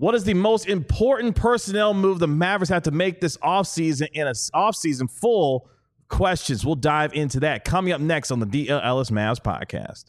What is the most important personnel move the Mavericks have to make this offseason in an offseason full of questions? We'll dive into that coming up next on the DL Ellis Mavs podcast.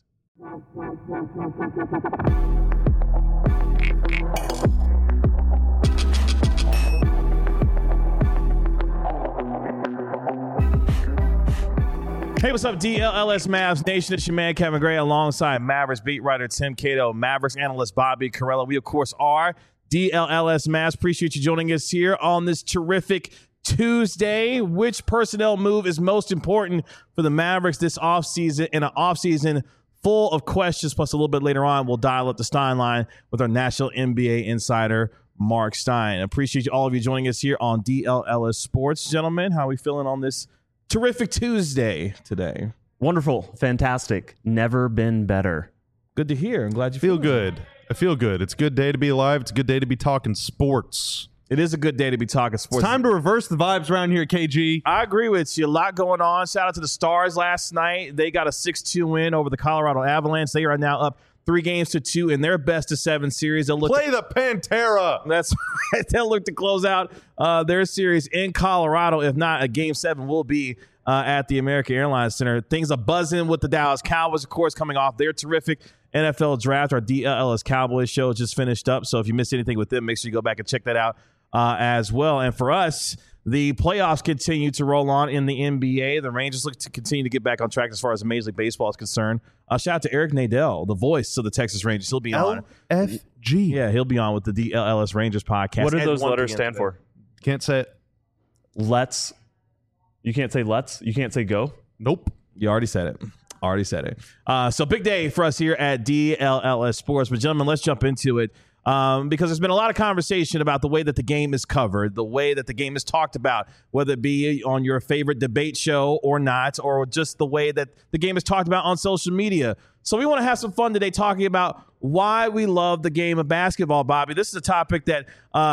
Hey, what's up, DLLS Mavs Nation? It's your man, Kevin Gray, alongside Mavericks beat writer Tim Cato, Mavericks analyst Bobby Carella. We, of course, are DLLS Mavs. Appreciate you joining us here on this terrific Tuesday. Which personnel move is most important for the Mavericks this offseason? In an offseason full of questions, plus a little bit later on, we'll dial up the Stein line with our national NBA insider, Mark Stein. Appreciate all of you joining us here on DLLS Sports. Gentlemen, how are we feeling on this terrific Tuesday today? Wonderful. Fantastic. Never been better. Good to hear. I'm glad you feel good. I feel good. It's a good day to be alive. It's a good day to be talking sports. It is a good day to be talking sports. It's time to reverse the vibes around here, KG. I agree with you. A lot going on. Shout out to the Stars last night. They got a 6-2 win over the Colorado Avalanche. They are now up 3-2 in their best-of-7 series. They'll play the Pantera. That's right. They'll look to close out their series in Colorado. If not, a Game 7 will be at the American Airlines Center. Things are buzzing with the Dallas Cowboys, of course, coming off their terrific NFL draft. Our DLS Cowboys show just finished up, so if you missed anything with them, make sure you go back and check that out as well. And for us, the playoffs continue to roll on in the NBA. The Rangers look to continue to get back on track as far as Major League Baseball is concerned. Shout out to Eric Nadel, the voice of the Texas Rangers. He'll be on. LFG. Yeah, he'll be on with the DLS Rangers podcast. What do those letters stand for? Can't say it. Let's. You can't say let's. You can't say go. Nope. You already said it. So big day for us here at DLLS Sports. But gentlemen, let's jump into it. Because there's been a lot of conversation about the way that the game is covered, the way that the game is talked about, whether it be on your favorite debate show or not, or just the way that the game is talked about on social media. So we want to have some fun today talking about why we love the game of basketball, Bobby. This is a topic that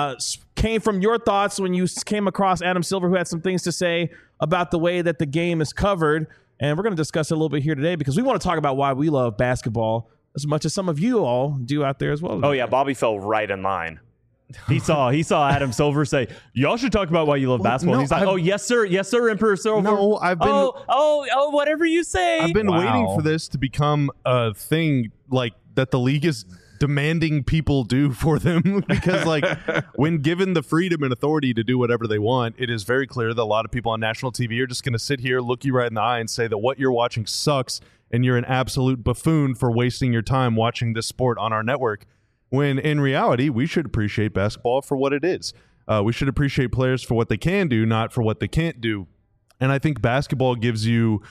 came from your thoughts when you came across Adam Silver, who had some things to say about the way that the game is covered. And we're going to discuss it a little bit here today because we want to talk about why we love basketball as much as some of you all do out there as well. Oh, yeah. Bobby fell right in line. He saw Adam Silver say, y'all should talk about why you love basketball. And he's like, oh, yes, sir. Yes, sir, Emperor Silver. No, I've been... Oh, whatever you say. I've been waiting for this to become a thing like that the league is demanding people do for them. Because like when given the freedom and authority to do whatever they want, it is very clear that a lot of people on national TV are just going to sit here, look you right in the eye and say that what you're watching sucks and you're an absolute buffoon for wasting your time watching this sport on our network. When in reality, we should appreciate basketball for what it is. We should appreciate players for what they can do, not for what they can't do. And I think basketball gives you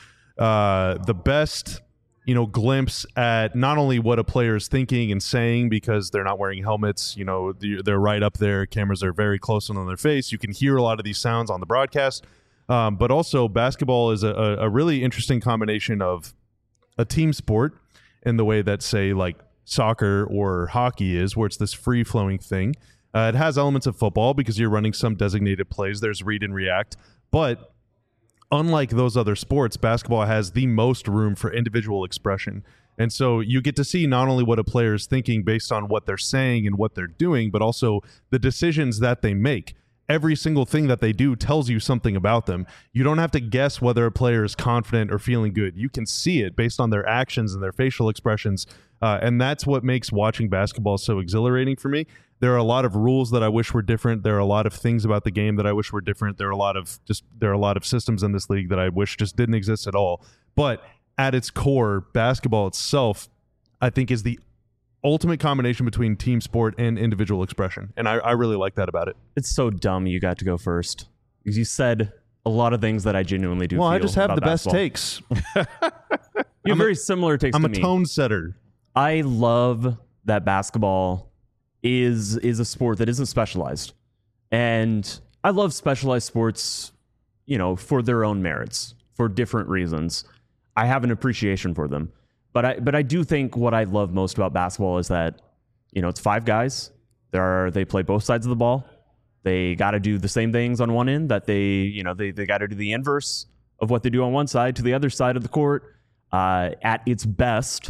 the best, glimpse at not only what a player is thinking and saying because they're not wearing helmets. They're right up there. Cameras are very close on their face. You can hear a lot of these sounds on the broadcast. But also, basketball is a really interesting combination of a team sport in the way that, say, like soccer or hockey is, where it's this free-flowing thing. It has elements of football because you're running some designated plays. There's read and react. But unlike those other sports, basketball has the most room for individual expression. And so you get to see not only what a player is thinking based on what they're saying and what they're doing, but also the decisions that they make. Every single thing that they do tells you something about them. You don't have to guess whether a player is confident or feeling good. You can see it based on their actions and their facial expressions. And that's what makes watching basketball so exhilarating for me. There are a lot of rules that I wish were different. There are a lot of things about the game that I wish were different. There are a lot of systems in this league that I wish just didn't exist at all. But at its core, basketball itself, I think, is the ultimate combination between team sport and individual expression. And I really like that about it. It's so dumb you got to go first. Because you said a lot of things that I genuinely do. Well, feel I just have the basketball. Best takes. You have very similar takes to me. I'm a tone setter. I love that basketball is a sport that isn't specialized. And I love specialized sports, for their own merits, for different reasons. I have an appreciation for them. But I do think what I love most about basketball is that, it's 5 guys. They play both sides of the ball. They got to do the same things on one end that they got to do the inverse of what they do on one side to the other side of the court at its best.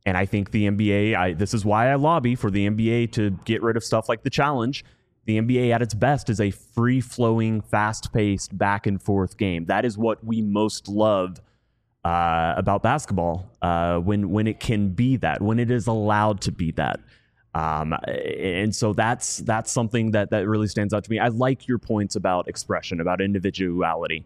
And I think the NBA, this is why I lobby for the NBA to get rid of stuff like the challenge. The NBA at its best is a free-flowing, fast-paced, back-and-forth game. That is what we most love about basketball when it can be that, when it is allowed to be that. And so that's something that really stands out to me. I like your points about expression, about individuality.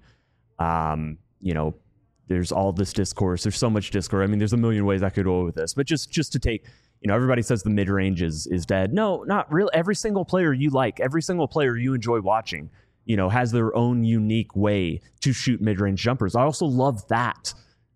There's all this discourse. There's so much discourse. I mean, there's a million ways I could go with this, but just to take, everybody says the mid-range is dead. No, not really. Every single player you like, every single player you enjoy watching, has their own unique way to shoot mid-range jumpers. I also love that,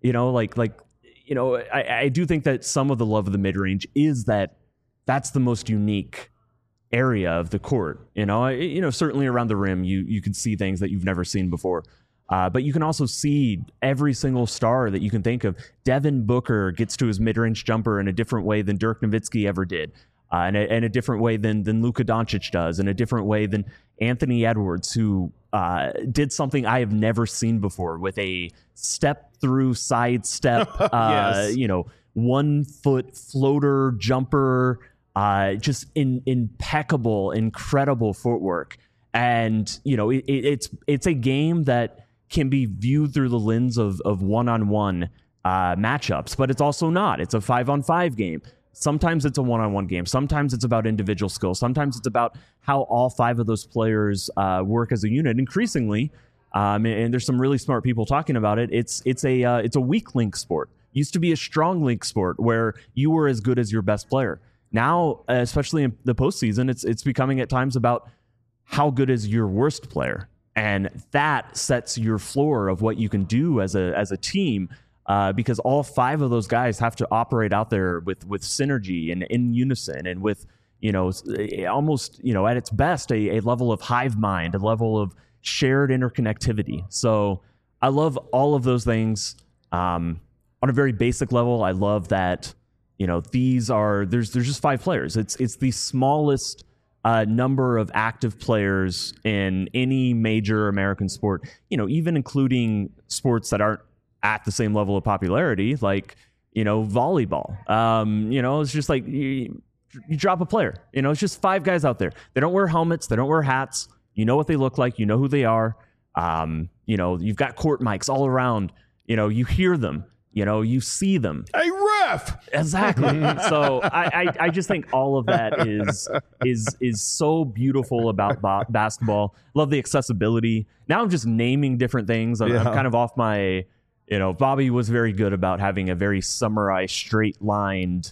I do think that some of the love of the mid-range is that's the most unique area of the court. Certainly around the rim, you can see things that you've never seen before. But you can also see every single star that you can think of. Devin Booker gets to his mid-range jumper in a different way than Dirk Nowitzki ever did, and a different way than Luka Doncic does, and a different way than Anthony Edwards, who did something I have never seen before with a step-through sidestep, Yes. 1 foot floater jumper, just impeccable, incredible footwork. And, it's a game that can be viewed through the lens of one-on-one matchups, but it's also not. It's a 5-on-5 game. Sometimes it's a one-on-one game. Sometimes it's about individual skill. Sometimes it's about how all 5 of those players work as a unit. Increasingly, and there's some really smart people talking about it, it's a weak link sport. Used to be a strong link sport where you were as good as your best player. Now, especially in the postseason, it's becoming at times about how good is your worst player, and that sets your floor of what you can do as a team, because all 5 of those guys have to operate out there with synergy and in unison, and with almost at its best a level of hive mind, a level of shared interconnectivity. So I love all of those things. On a very basic level, I love that there's just 5 players. It's the smallest number of active players in any major American sport, even including sports that aren't at the same level of popularity, like, volleyball. It's just like you drop a player, it's just 5 guys out there. They don't wear helmets. They don't wear hats. You know what they look like. You know who they are. You've got court mics all around. You hear them. You see them. Hey, ref! Exactly. So I just think all of that is so beautiful about basketball. Love the accessibility. Now I'm just naming different things. I'm kind of off my, Bobby was very good about having a very summarized, straight-lined,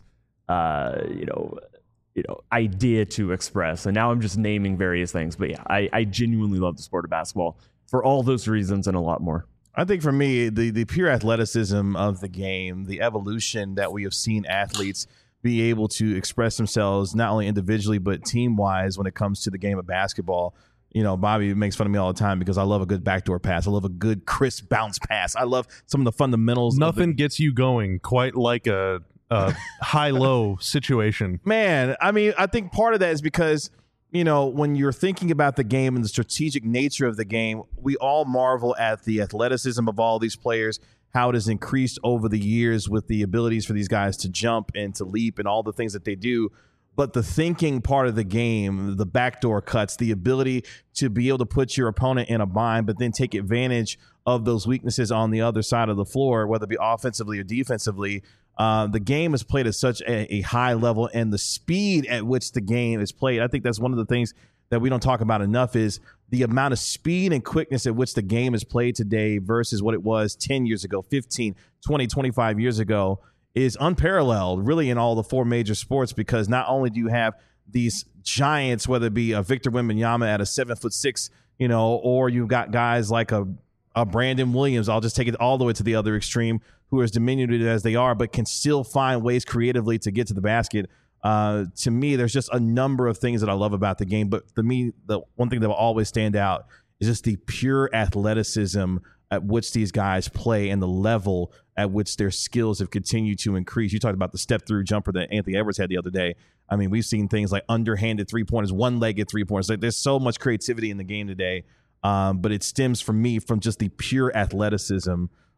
idea to express. And now I'm just naming various things. But yeah, I genuinely love the sport of basketball for all those reasons and a lot more. I think for me, the pure athleticism of the game, the evolution that we have seen athletes be able to express themselves not only individually but team-wise when it comes to the game of basketball. Bobby makes fun of me all the time because I love a good backdoor pass. I love a good crisp bounce pass. I love some of the fundamentals. Nothing gets you going quite like a high-low situation. Man, I mean, I think part of that is because when you're thinking about the game and the strategic nature of the game, we all marvel at the athleticism of all these players, how it has increased over the years with the abilities for these guys to jump and to leap and all the things that they do. But the thinking part of the game, the backdoor cuts, the ability to be able to put your opponent in a bind, but then take advantage of those weaknesses on the other side of the floor, whether it be offensively or defensively. The game is played at such a high level, and the speed at which the game is played, I think that's one of the things that we don't talk about enough, is the amount of speed and quickness at which the game is played today versus what it was 10 years ago, 15, 20, 25 years ago is unparalleled really in all the 4 major sports, because not only do you have these giants, whether it be a Victor Wembanyama at a 7'6", or you've got guys like a Brandon Williams, I'll just take it all the way to the other extreme, who are as diminutive as they are, but can still find ways creatively to get to the basket. To me, there's just a number of things that I love about the game. But to me, the one thing that will always stand out is just the pure athleticism at which these guys play and the level at which their skills have continued to increase. You talked about the step-through jumper that Anthony Edwards had the other day. I mean, we've seen things like underhanded three-pointers, one-legged three-pointers. Like, there's so much creativity in the game today. But it stems for me from just the pure athleticism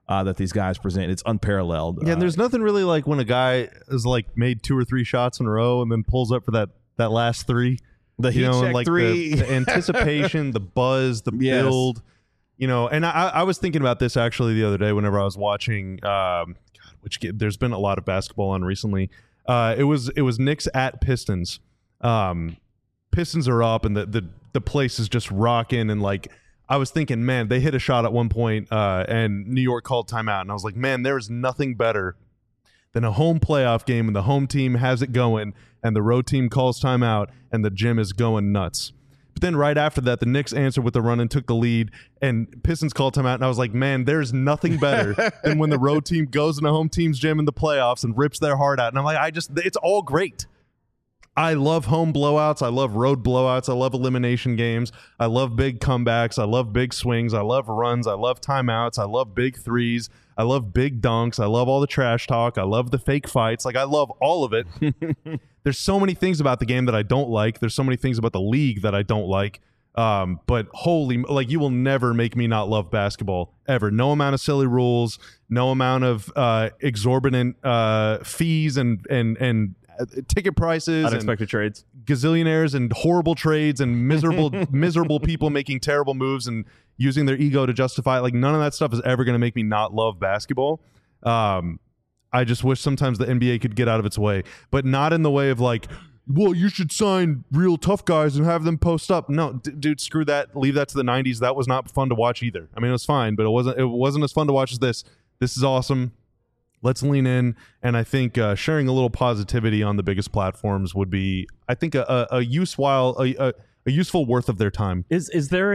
that these guys present. It's unparalleled. Yeah, and there's nothing really like when a guy is like made 2 or 3 shots in a row and then pulls up for that last 3. The heat check like 3. the anticipation, the buzz, the build. And I was thinking about this actually the other day whenever I was watching. Which game? There's been a lot of basketball on recently. It was Knicks at Pistons. Pistons are up and the place is just rocking, and like I was thinking, man, they hit a shot at one point and New York called timeout, and I was like, man, there's nothing better than a home playoff game when the home team has it going and the road team calls timeout and the gym is going nuts. But then right after that, the Knicks answered with a run and took the lead, and Pistons called timeout, and I was like, man, there's nothing better than when the road team goes in a home team's gym in the playoffs and rips their heart out. And I'm like, it's all great. I love home blowouts. I love road blowouts. I love elimination games. I love big comebacks. I love big swings. I love runs. I love timeouts. I love big threes. I love big dunks. I love all the trash talk. I love the fake fights. Like, I love all of it. There's so many things about the game that I don't like. There's so many things about the league that I don't like. But you will never make me not love basketball ever. No amount of silly rules, no amount of exorbitant fees and ticket prices, unexpected trades, gazillionaires and horrible trades and miserable people making terrible moves and using their ego to justify it. Like, none of that stuff is ever going to make me not love basketball. I just wish sometimes the NBA could get out of its way, but not in the way of like, well, you should sign real tough guys and have them post up. No, dude, screw that. Leave that to the 90s. That was not fun to watch either. I mean, it was fine, but it wasn't as fun to watch as this. This is awesome. Let's lean in, and I think sharing a little positivity on the biggest platforms would be, I think, a useful worth of their time. Is there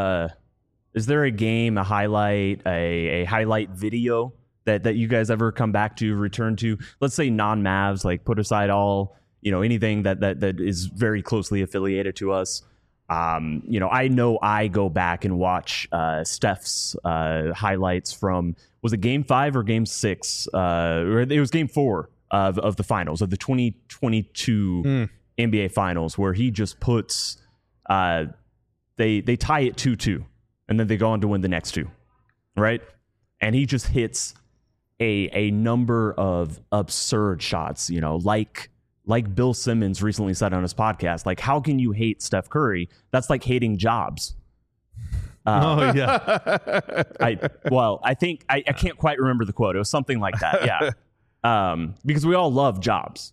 a game, a highlight, a highlight video that you guys ever come back to, return to? Let's say non-Mavs, like put aside all anything that is very closely affiliated to us. I know I go back and watch Steph's highlights from, was it Game 5 or Game 6? Or it was Game 4 of the finals, of the 2022 NBA Finals, where he just puts they tie it 2-2, and then they go on to win the next 2, right? And he just hits a number of absurd shots, like Bill Simmons recently said on his podcast, like, how can you hate Steph Curry? That's like hating Jobs. Oh, yeah. I think I can't quite remember the quote. It was something like that. Yeah. Because we all love Jobs.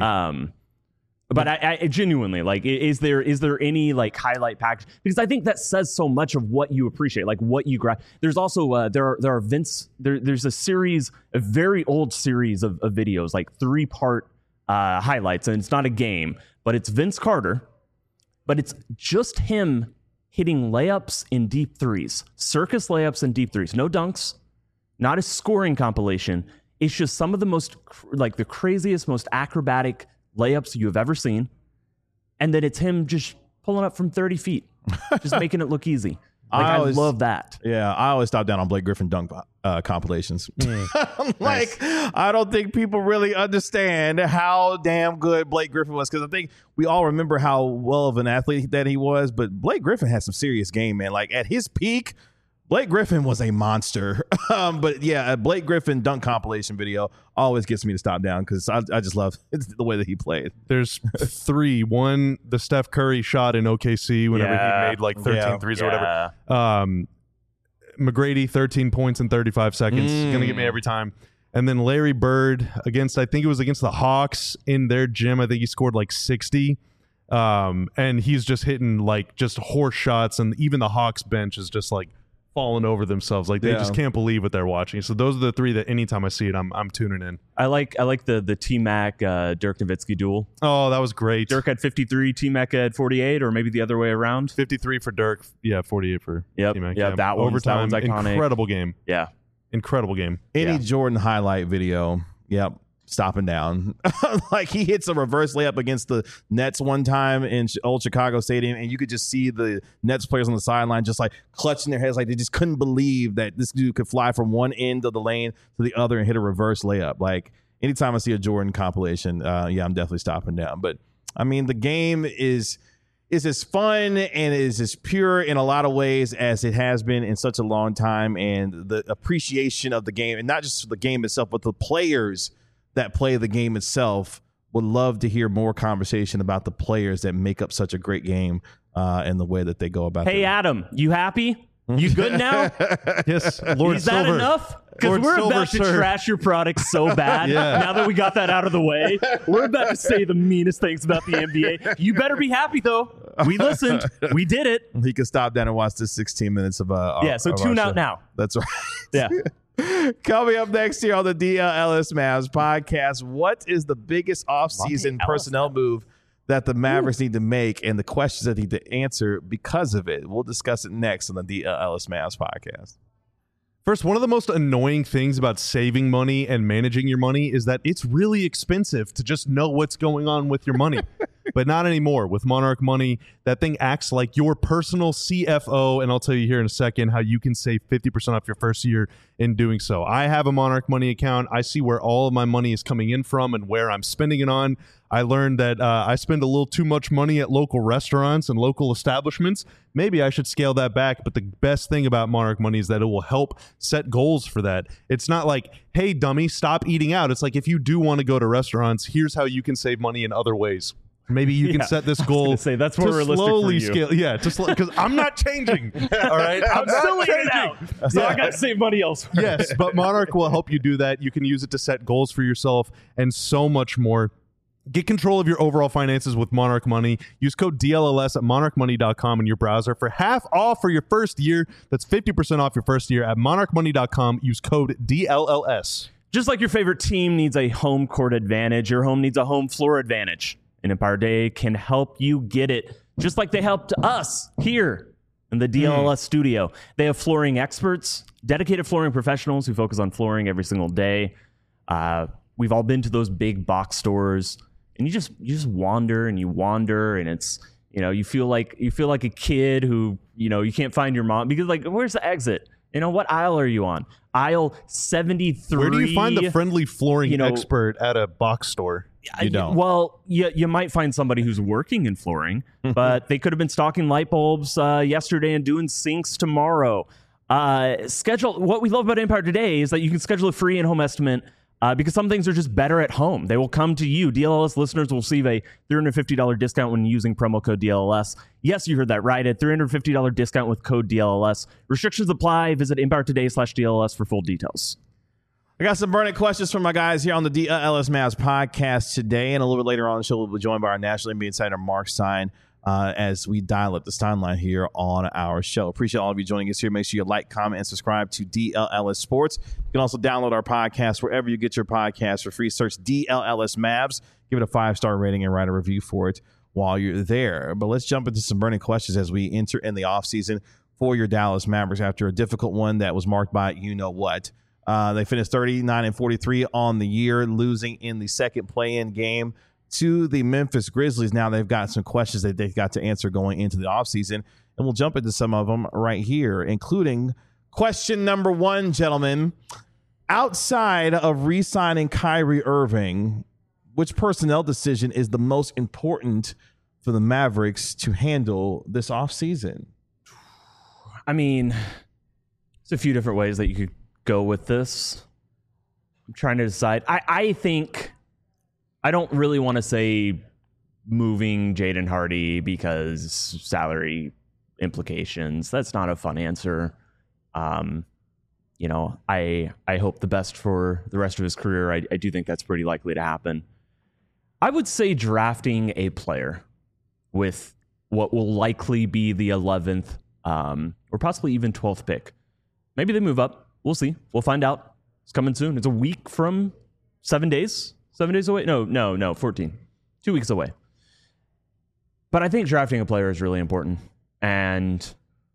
But I genuinely, like, is there any like highlight package? Because I think that says so much of what you appreciate, like what you grab. There's also there's a series, a very old series of videos, like 3-part highlights, and it's not a game, but it's Vince Carter, but it's just him hitting layups in deep threes, circus layups and deep threes, no dunks, not a scoring compilation. It's just some of the most, like, the craziest, most acrobatic layups you have ever seen, and then it's him just pulling up from 30 feet, just making it look easy. Like, I love that. Yeah, I always stop down on Blake Griffin dunk compilations. Like, nice. I don't think people really understand how damn good Blake Griffin was, because I think we all remember how well of an athlete that he was, but Blake Griffin had some serious game, man. Like, at his peak, Blake Griffin was a monster. But yeah, a Blake Griffin dunk compilation video always gets me to stop down, because I just love the way that he played. There's 3. One, the Steph Curry shot in OKC whenever he made like 13 threes or whatever. McGrady, 13 points in 35 seconds. Going to get me every time. And then Larry Bird against the Hawks in their gym. I think he scored like 60. And he's just hitting like just horse shots. And even the Hawks bench is just like falling over themselves. Like, they just can't believe what they're watching. So those are the 3 that anytime I see it, I'm tuning in. I like the T-Mac Dirk Nowitzki duel. Oh, that was great. Dirk had 53, T-Mac had 48, or maybe the other way around. 53 for Dirk. Yeah, 48 for T-Mac. Yeah, that one's iconic. Incredible game. Yeah. Incredible game. Any Jordan highlight video. Yep. Stopping down. Like, he hits a reverse layup against the Nets one time in old Chicago Stadium, and you could just see the Nets players on the sideline just like clutching their heads, like they just couldn't believe that this dude could fly from one end of the lane to the other and hit a reverse layup. Like, anytime I see a Jordan compilation, I'm definitely stopping down. But I mean, the game is, is as fun and is as pure in a lot of ways as it has been in such a long time, and the appreciation of the game, and not just the game itself, but the players that play the game itself. Would love to hear more conversation about the players that make up such a great game and the way that they go about it. Hey, Adam, you happy? You good now? Yes, Lord Is that Silver. enough? Because Lord we're Silver, about to sir. trash your product so bad. Yeah. Now that we got that out of the way, we're about to say the meanest things about the NBA. You better be happy, though. We listened. We did it. He can stop down and watch this 16 minutes of So of tune our out show. now. That's right. Yeah. Coming up next here on the DLLS Mavs podcast, what is the biggest offseason personnel move that the Mavericks need to make and the questions that they need to answer because of it? We'll discuss it next on the DLLS Mavs podcast. First, one of the most annoying things about saving money and managing your money is that it's really expensive to just know what's going on with your money. But not anymore. With Monarch Money, that thing acts like your personal CFO, and I'll tell you here in a second how you can save 50% off your first year in doing so. I have a Monarch Money account. I see where all of my money is coming in from and where I'm spending it on. I learned that I spend a little too much money at local restaurants and local establishments. Maybe I should scale that back, but the best thing about Monarch Money is that it will help set goals for that. It's not like, hey, dummy, stop eating out. It's like, if you do want to go to restaurants, here's how you can save money in other ways. Maybe you can set this goal gonna say, that's more to realistic slowly for you. scale. Yeah, because I'm not changing. All right, I'm not still eating changing. out. So I got to save money elsewhere. Yes, but Monarch will help you do that. You can use it to set goals for yourself and so much more. Get control of your overall finances with Monarch Money. Use code DLLS at monarchmoney.com in your browser for half off for your first year. That's 50% off your first year at monarchmoney.com. Use code DLLS. Just like your favorite team needs a home court advantage, your home needs a home floor advantage. And Empire Day can help you get it, just like they helped us here in the DLLS studio. They have flooring experts, dedicated flooring professionals who focus on flooring every single day. We've all been to those big box stores, and you just wander and it's, you feel like a kid who, you can't find your mom because, like, where's the exit? What aisle are you on? Aisle 73. Where do you find the friendly flooring expert at a box store? You don't. Well, you might find somebody who's working in flooring, but they could have been stocking light bulbs yesterday and doing sinks tomorrow. What we love about Empire today is that you can schedule a free in-home estimate because some things are just better at home. They will come to you. DLLS listeners will receive a $350 discount when using promo code DLLS. Yes, you heard that right. A $350 discount with code DLLS. Restrictions apply. Visit EmpireToday.com/DLLS for full details. I got some burning questions from my guys here on the DLLS Mavs podcast today, and a little bit later on the show, we'll be joined by our national NBA insider, Mark Stein, as we dial up the timeline here on our show. Appreciate all of you joining us here. Make sure you like, comment, and subscribe to DLLS Sports. You can also download our podcast wherever you get your podcasts for free. Search DLLS Mavs. Give it a 5-star rating and write a review for it while you're there. But let's jump into some burning questions as we enter in the offseason for your Dallas Mavericks after a difficult one that was marked by you-know-what. They finished 39-43 on the year, losing in the second play-in game to the Memphis Grizzlies. Now they've got some questions that they've got to answer going into the offseason, and we'll jump into some of them right here, including question number 1, gentlemen. Outside of re-signing Kyrie Irving, which personnel decision is the most important for the Mavericks to handle this offseason? I mean, there's a few different ways that you could go with this. I'm trying to decide. I think I don't really want to say moving Jaden Hardy because salary implications. That's not a fun answer. I hope the best for the rest of his career. I do think that's pretty likely to happen. I would say drafting a player with what will likely be the 11th or possibly even 12th pick. Maybe they move up. We'll see. We'll find out. It's coming soon. It's a week from 7 days. 7 days away? No, 14. 2 weeks away. But I think drafting a player is really important. And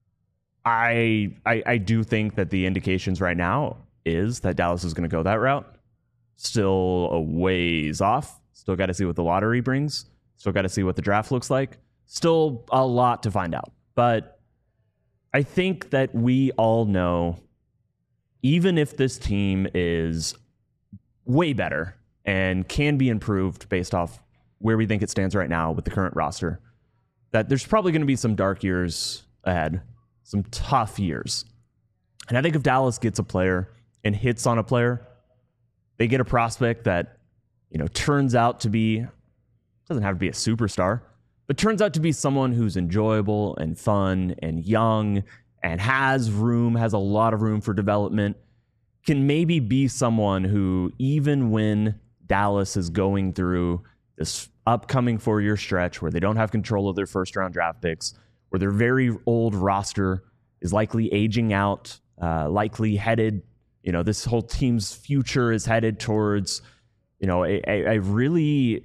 I do think that the indications right now is that Dallas is going to go that route. Still a ways off. Still got to see what the lottery brings. Still got to see what the draft looks like. Still a lot to find out. But I think that we all know, even if this team is way better and can be improved based off where we think it stands right now with the current roster, that there's probably going to be some dark years ahead, some tough years. And I think if Dallas gets a player and hits on a player, they get a prospect that, turns out to be, doesn't have to be a superstar, but turns out to be someone who's enjoyable and fun and young and has a lot of room for development, can maybe be someone who, even when Dallas is going through this upcoming 4-year stretch where they don't have control of their first-round draft picks, where their very old roster is likely aging out, likely headed, this whole team's future is headed towards, a really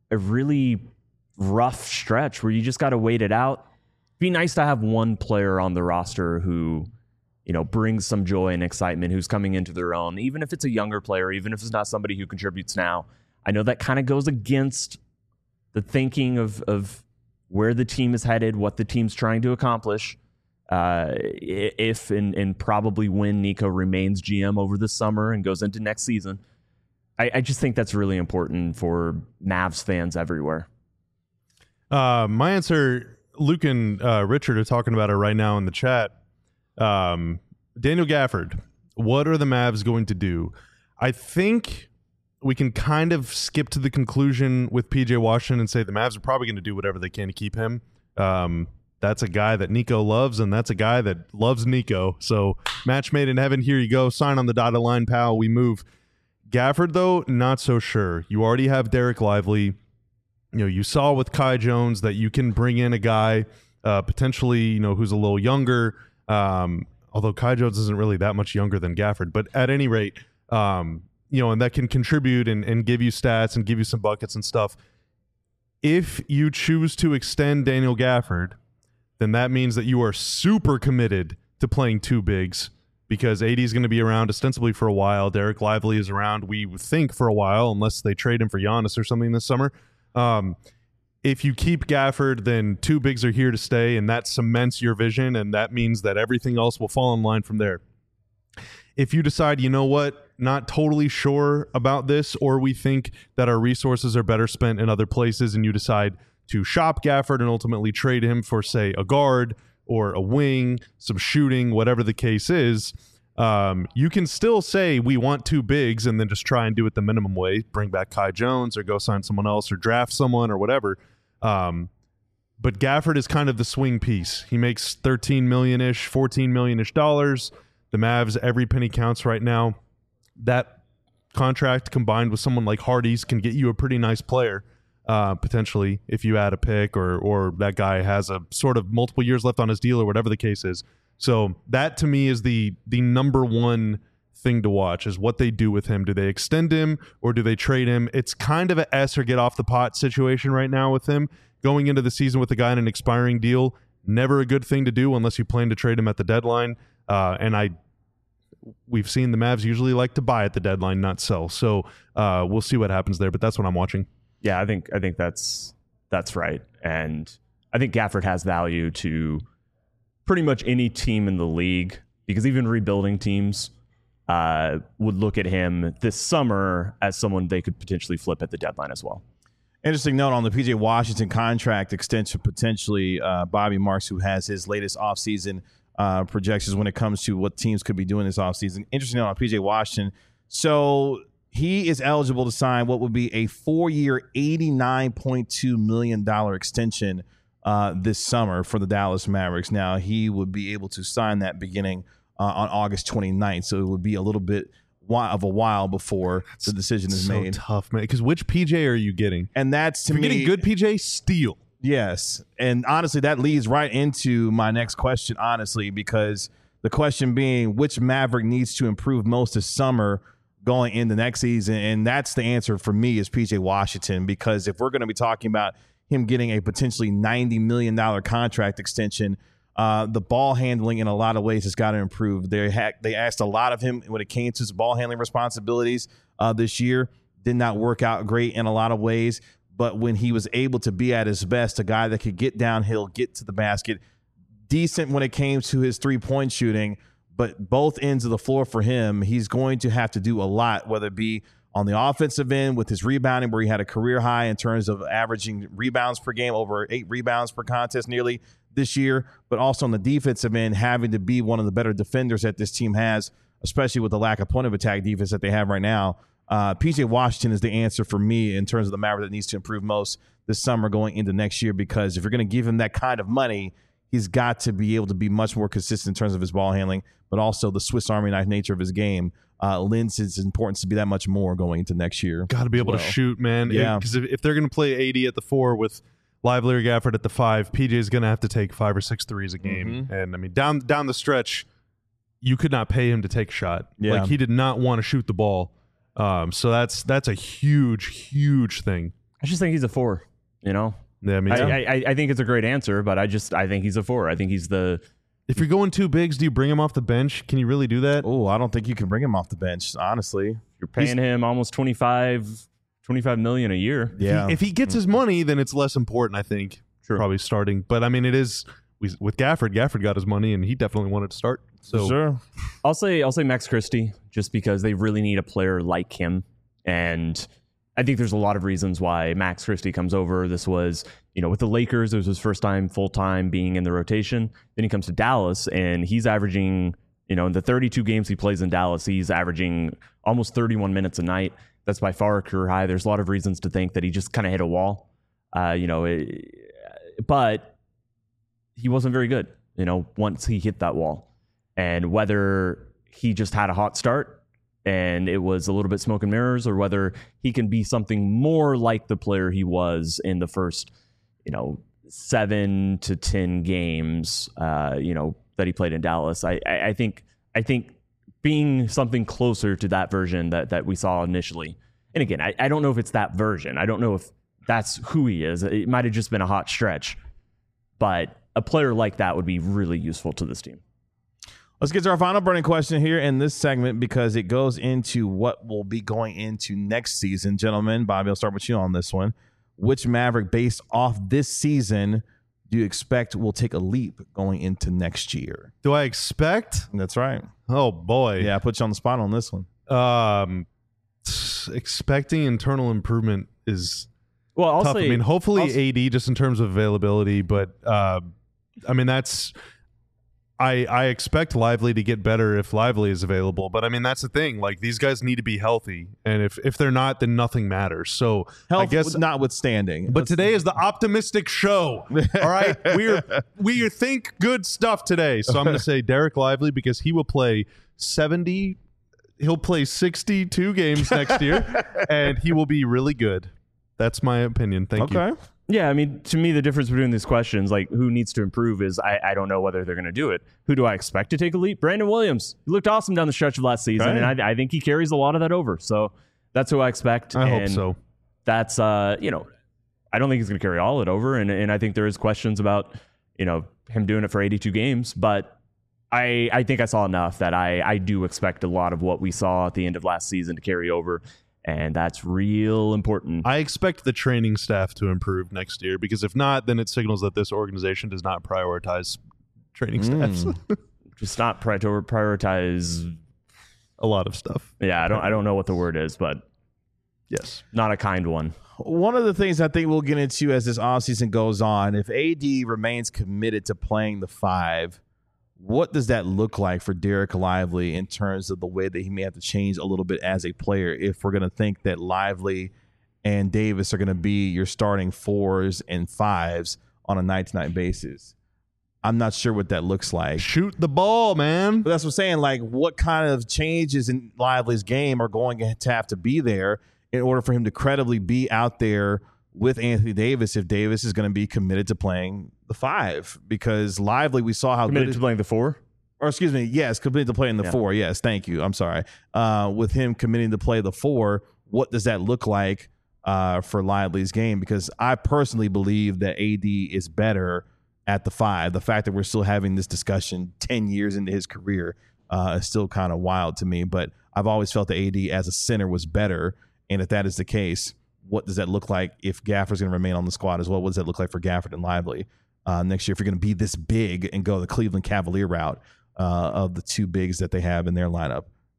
rough stretch where you just got to wait it out. It'd be nice to have one player on the roster who, brings some joy and excitement, who's coming into their own, even if it's a younger player, even if it's not somebody who contributes now. I know that kind of goes against the thinking of where the team is headed, what the team's trying to accomplish. If and probably when Nico remains GM over the summer and goes into next season. I just think that's really important for Mavs fans everywhere. My answer, Luke and Richard are talking about it right now in the chat. Daniel Gafford, what are the Mavs going to do? I think we can kind of skip to the conclusion with PJ Washington and say the Mavs are probably going to do whatever they can to keep him. That's a guy that Nico loves, and that's a guy that loves Nico. So match made in heaven. Here you go. Sign on the dotted line, pal. We move. Gafford, though, not so sure. You already have Derek Lively. You saw with Kai Jones that you can bring in a guy potentially, who's a little younger. Although Kai Jones isn't really that much younger than Gafford. But at any rate, and that can contribute and give you stats and give you some buckets and stuff. If you choose to extend Daniel Gafford, then that means that you are super committed to playing two bigs, because AD is going to be around ostensibly for a while. Derek Lively is around, we think, for a while, unless they trade him for Giannis or something this summer. If you keep Gafford, then two bigs are here to stay, and that cements your vision, and that means that everything else will fall in line from there. If you decide, not totally sure about this, or we think that our resources are better spent in other places, and you decide to shop Gafford and ultimately trade him for, say, a guard or a wing, some shooting, whatever the case is, you can still say we want two bigs and then just try and do it the minimum way, bring back Kai Jones or go sign someone else or draft someone or whatever. But Gafford is kind of the swing piece. He makes $13 million-ish, $14 million-ish dollars. The Mavs, every penny counts right now. That contract combined with someone like Hardy's can get you a pretty nice player, potentially, if you add a pick or that guy has a sort of multiple years left on his deal or whatever the case is. So that, to me, is the number one thing to watch, is what they do with him. Do they extend him or do they trade him? It's kind of a S or get off the pot situation right now with him. Going into the season with a guy in an expiring deal, never a good thing to do unless you plan to trade him at the deadline. We've seen the Mavs usually like to buy at the deadline, not sell. So we'll see what happens there, but that's what I'm watching. Yeah, I think that's right. And I think Gafford has value to pretty much any team in the league, because even rebuilding teams would look at him this summer as someone they could potentially flip at the deadline as well. Interesting note on the PJ Washington contract extension, potentially Bobby Marks, who has his latest offseason projections when it comes to what teams could be doing this offseason. Interesting note on PJ Washington. So he is eligible to sign what would be a 4-year, $89.2 million extension this summer for the Dallas Mavericks. Now, he would be able to sign that beginning on August 29th, so it would be a little bit of a while before the decision is made. So tough, man, because which PJ are you getting? And that's, to me, getting good PJ, steal. Yes, and honestly, that leads right into my next question, honestly, because the question being, which Maverick needs to improve most this summer going into next season? And that's the answer for me, is PJ Washington, because if we're going to be talking about him getting a potentially $90 million contract extension, the ball handling in a lot of ways has got to improve. They asked a lot of him when it came to his ball handling responsibilities this year. Did not work out great in a lot of ways. But when he was able to be at his best, a guy that could get downhill, get to the basket, decent when it came to his three-point shooting, but both ends of the floor for him, he's going to have to do a lot, whether it be on the offensive end with his rebounding, where he had a career high in terms of averaging rebounds per game, over 8 rebounds per contest nearly this year, but also on the defensive end, having to be one of the better defenders that this team has, especially with the lack of point of attack defense that they have right now. PJ Washington is the answer for me in terms of the Maverick that needs to improve most this summer going into next year, because if you're going to give him that kind of money, he's got to be able to be much more consistent in terms of his ball handling, but also the Swiss Army knife nature of his game lends its importance to be that much more going into next year. Got to be able to shoot, man. Yeah. Because if they're going to play AD at the 4 with Lively or Gafford at the 5, PJ's going to have to take 5 or 6 threes a game. And I mean, down the stretch, you could not pay him to take a shot. Yeah. Like, he did not want to shoot the ball. So that's a huge thing. I just think he's a 4, you know? Yeah, me too. I think it's a great answer, but I think he's a 4. I think he's the... If you're going 2 bigs, do you bring him off the bench? Can you really do that? Oh, I don't think you can bring him off the bench, honestly. You're paying him almost $25 million a year. Yeah. If he gets his money, then it's less important, I think. Sure. Probably starting. But I mean, it is with Gafford. Gafford got his money, and he definitely wanted to start. So sure. I'll say Max Christie, just because they really need a player like him. And I think there's a lot of reasons why Max Christie comes over. This was, with the Lakers, it was his first time full-time being in the rotation. Then he comes to Dallas, and he's averaging, in the 32 games he plays in Dallas, he's averaging almost 31 minutes a night. That's by far a career high. There's a lot of reasons to think that he just kind of hit a wall, but he wasn't very good, once he hit that wall. And whether he just had a hot start and it was a little bit smoke and mirrors, or whether he can be something more like the player he was in the first, 7 to 10 games, that he played in Dallas. I think being something closer to that version that we saw initially. And again, I don't know if it's that version. I don't know if that's who he is. It might have just been a hot stretch, but a player like that would be really useful to this team. Let's get to our final burning question here in this segment, because it goes into what will be going into next season. Gentlemen, Bobby, I'll start with you on this one. Which Maverick, based off this season, do you expect will take a leap going into next year? Do I expect? That's right. Oh, boy. Yeah, I put you on the spot on this one. Expecting internal improvement is tough. I mean, hopefully AD just in terms of availability, but I mean, I expect Lively to get better if Lively is available, but I mean, that's the thing. Like, these guys need to be healthy, and if they're not, then nothing matters. So Health I guess notwithstanding. But today is the optimistic show. All right, we think good stuff today. So I'm going to say Derek Lively, because he will play 70. He'll play 62 games next year, and he will be really good. That's my opinion. Thank you. Okay. Yeah, I mean, to me, the difference between these questions, like who needs to improve, is I don't know whether they're going to do it. Who do I expect to take a leap? Brandon Williams. He looked awesome down the stretch of last season, Right. and I think he carries a lot of that over. So that's who I expect. I hope so. That's, I don't think he's going to carry all of it over, and I think there is questions about, him doing it for 82 games, but I think I saw enough that I do expect a lot of what we saw at the end of last season to carry over. And that's real important. I expect the training staff to improve next year, because if not, then it signals that this organization does not prioritize training staffs. Just not prioritize A lot of stuff. Yeah, I don't know what the word is, but Yes. not a kind one. One of the things I think we'll get into as this offseason goes on, if AD remains committed to playing the 5, what does that look like for Derek Lively in terms of the way that he may have to change a little bit as a player, if we're going to think that Lively and Davis are going to be your starting 4s and 5s on a night-to-night basis? I'm not sure what that looks like. Shoot the ball, man. But that's what I'm saying. Like, what kind of changes in Lively's game are going to have to be there in order for him to credibly be out there with Anthony Davis, if Davis is going to be committed to playing the 5? Because Lively, we saw how Committed to playing the 4? or excuse me, yes, committed to playing the 4. Yes, thank you. I'm sorry. With him committing to play the 4, what does that look like for Lively's game? Because I personally believe that AD is better at the 5. The fact that we're still having this discussion 10 years into his career is still kind of wild to me. But I've always felt that AD as a center was better. And if that is the case, what does that look like if Gafford's going to remain on the squad as well? What does that look like for Gafford and Lively next year if you're going to be this big and go the Cleveland Cavalier route of the 2 bigs that they have in their lineup?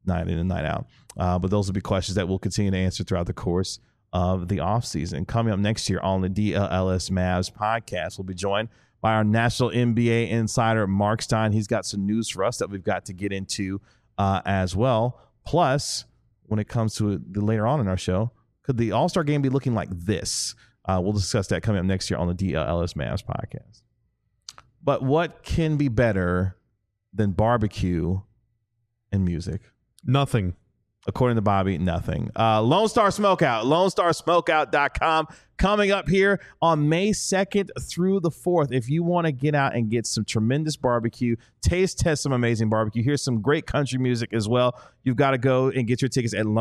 night in and night out. But those will be questions that we'll continue to answer throughout the course of the offseason. Coming up next year on the DLLS Mavs podcast, we'll be joined by our national NBA insider, Mark Stein. He's got some news for us that we've got to get into as well. Plus, when it comes to the later on in our show, could the All-Star game be looking like this? We'll discuss that coming up next year on the DLLS Mavs podcast. But what can be better than barbecue and music? Nothing. According to Bobby, nothing. Lone Star Smokeout, LoneStarSmokeout.com. Coming up here on May 2nd through the 4th. If you want to get out and get some tremendous barbecue, test some amazing barbecue, here's some great country music as well, you've got to go and get your tickets at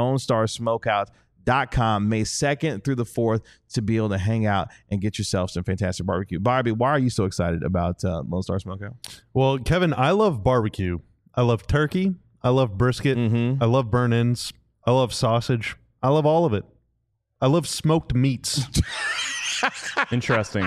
LoneStarSmokeout.com May 2nd through the 4th to be able to hang out and get yourself some fantastic barbecue. Bobby, why are you so excited about Lone Star Smokeout? Well, Kevin, I love barbecue. I love turkey. I love brisket. I love burn-ins. I love sausage. I love all of it. I love smoked meats. Interesting.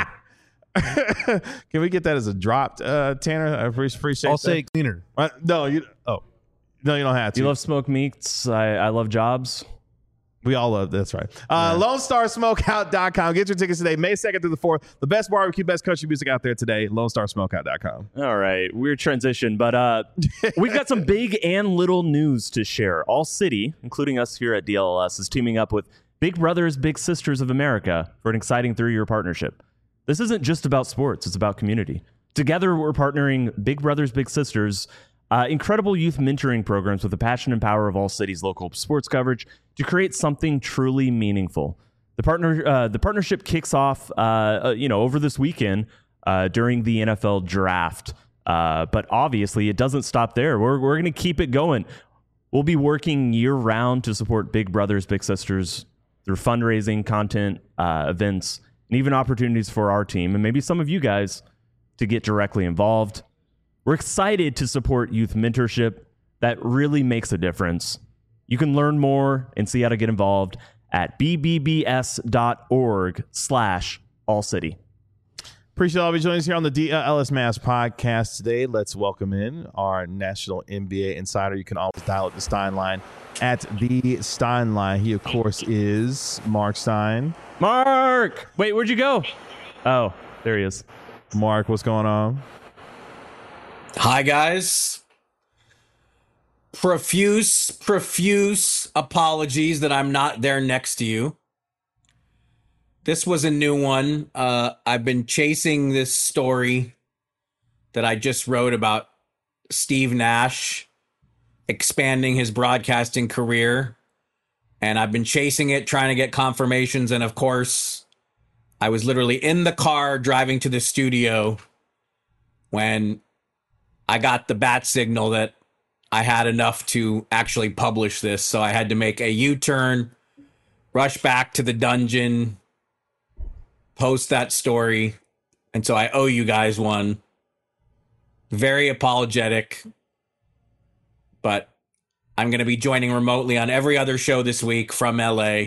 Can we get that as a drop, Tanner? I appreciate I'll that. say cleaner. No, you don't have to. You love smoked meats. I love jobs. We all love that's right. LoneStarSmokeout.com. Get your tickets today, May 2nd through the 4th. The best barbecue, best country music out there today. LoneStarSmokeout.com. All right, weird transition, but we've got some big and little news to share. All City, including us here at DLLS, is teaming up with Big Brothers Big Sisters of America for an exciting 3-year partnership. This isn't just about sports, it's about community. Together, we're partnering Big Brothers Big Sisters, incredible youth mentoring programs with the passion and power of All City's local sports coverage to create something truly meaningful. The partnership kicks off, over this weekend during the NFL draft. But obviously, it doesn't stop there. We're going to keep it going. We'll be working year-round to support Big Brothers Big Sisters through fundraising, content, events, and even opportunities for our team and maybe some of you guys to get directly involved. We're excited to support youth mentorship that really makes a difference. You can learn more and see how to get involved at bbbs.org/allcity. Appreciate all of you joining us here on the DLLS Mavs podcast today. Let's welcome in our national NBA insider. You can always dial up the Stein line at the Stein line. He, of course, is Mark Stein. Mark! Wait, where'd you go? Oh, there he is. Mark, what's going on? Hi, guys. Profuse apologies that I'm not there next to you. This was a new one. I've been chasing this story that I just wrote about Steve Nash expanding his broadcasting career. And I've been chasing it, trying to get confirmations. And of course, I was literally in the car driving to the studio when I got the bat signal that I had enough to actually publish this. So I had to make a U-turn, rush back to the dungeon, post that story. And so I owe you guys one. Very apologetic. But I'm going to be joining remotely on every other show this week from LA.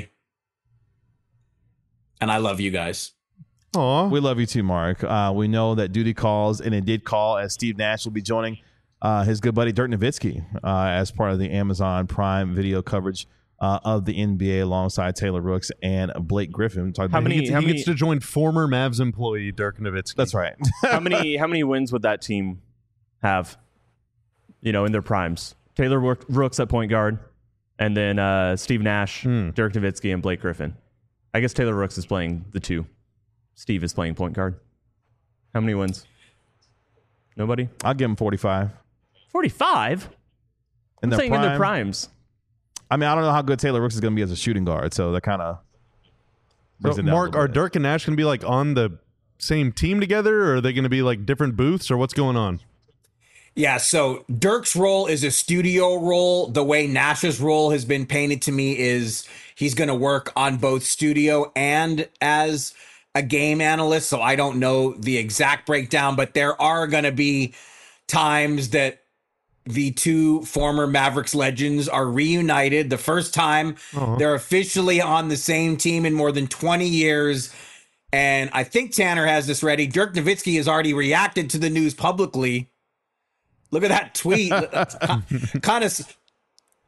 And I love you guys. Aw. We love you too, Mark. We know that duty calls, and it did call, as Steve Nash will be joining his good buddy Dirk Nowitzki as part of the Amazon Prime video coverage of the NBA alongside Taylor Rooks and Blake Griffin. He gets to join former Mavs employee Dirk Nowitzki. That's right. How many wins would that team have, in their primes? Taylor Rooks at point guard, and then Steve Nash, Dirk Nowitzki, and Blake Griffin. I guess Taylor Rooks is playing the two. Steve is playing point guard. How many wins? Nobody? I'll give him 45. 45? I'm saying in their primes. I mean, I don't know how good Taylor Rooks is going to be as a shooting guard, so that kind of... So, Mark, are Dirk and Nash going to be like on the same team together, or are they going to be like different booths, or what's going on? Yeah, so Dirk's role is a studio role. The way Nash's role has been painted to me is he's going to work on both studio and as a game analyst. So I don't know the exact breakdown, but there are going to be times that the two former Mavericks legends are reunited. The first time they're officially on the same team in more than 20 years. And I think Tanner has this ready. Dirk Nowitzki has already reacted to the news publicly. Look at that tweet. kind of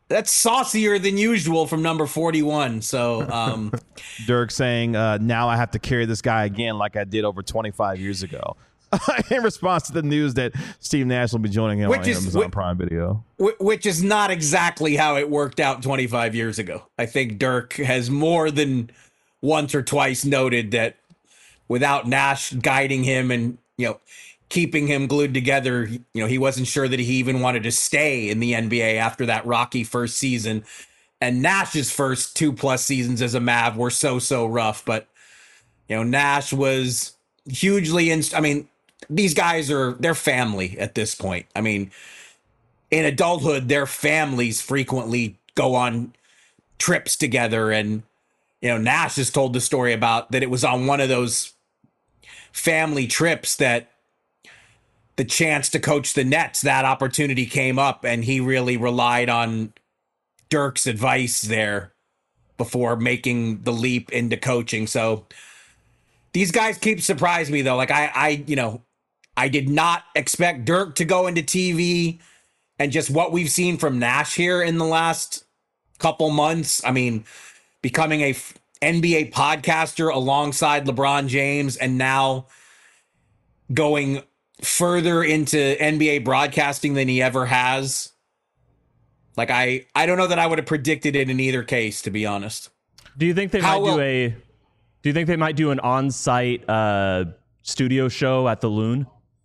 that's saucier than usual from number 41. So Dirk saying, now I have to carry this guy again like I did over 25 years ago. In response to the news that Steve Nash will be joining him on Amazon Prime Video. Which is not exactly how it worked out 25 years ago. I think Dirk has more than once or twice noted that without Nash guiding him and, keeping him glued together, he wasn't sure that he even wanted to stay in the NBA after that rocky first season. And Nash's first 2+ seasons as a Mav were so rough. But, Nash was hugely these guys they're family at this point. I mean, in adulthood, their families frequently go on trips together. And, Nash has told the story about that it was on one of those family trips that the chance to coach the Nets, that opportunity came up, and he really relied on Dirk's advice there before making the leap into coaching. So these guys keep surprising me, though. Like I did not expect Dirk to go into TV, and just what we've seen from Nash here in the last couple months. I mean, becoming a NBA podcaster alongside LeBron James, and now going further into NBA broadcasting than he ever has. Like, I don't know that I would have predicted it in either case, to be honest. Do you think they might do an on-site studio show at the Loon?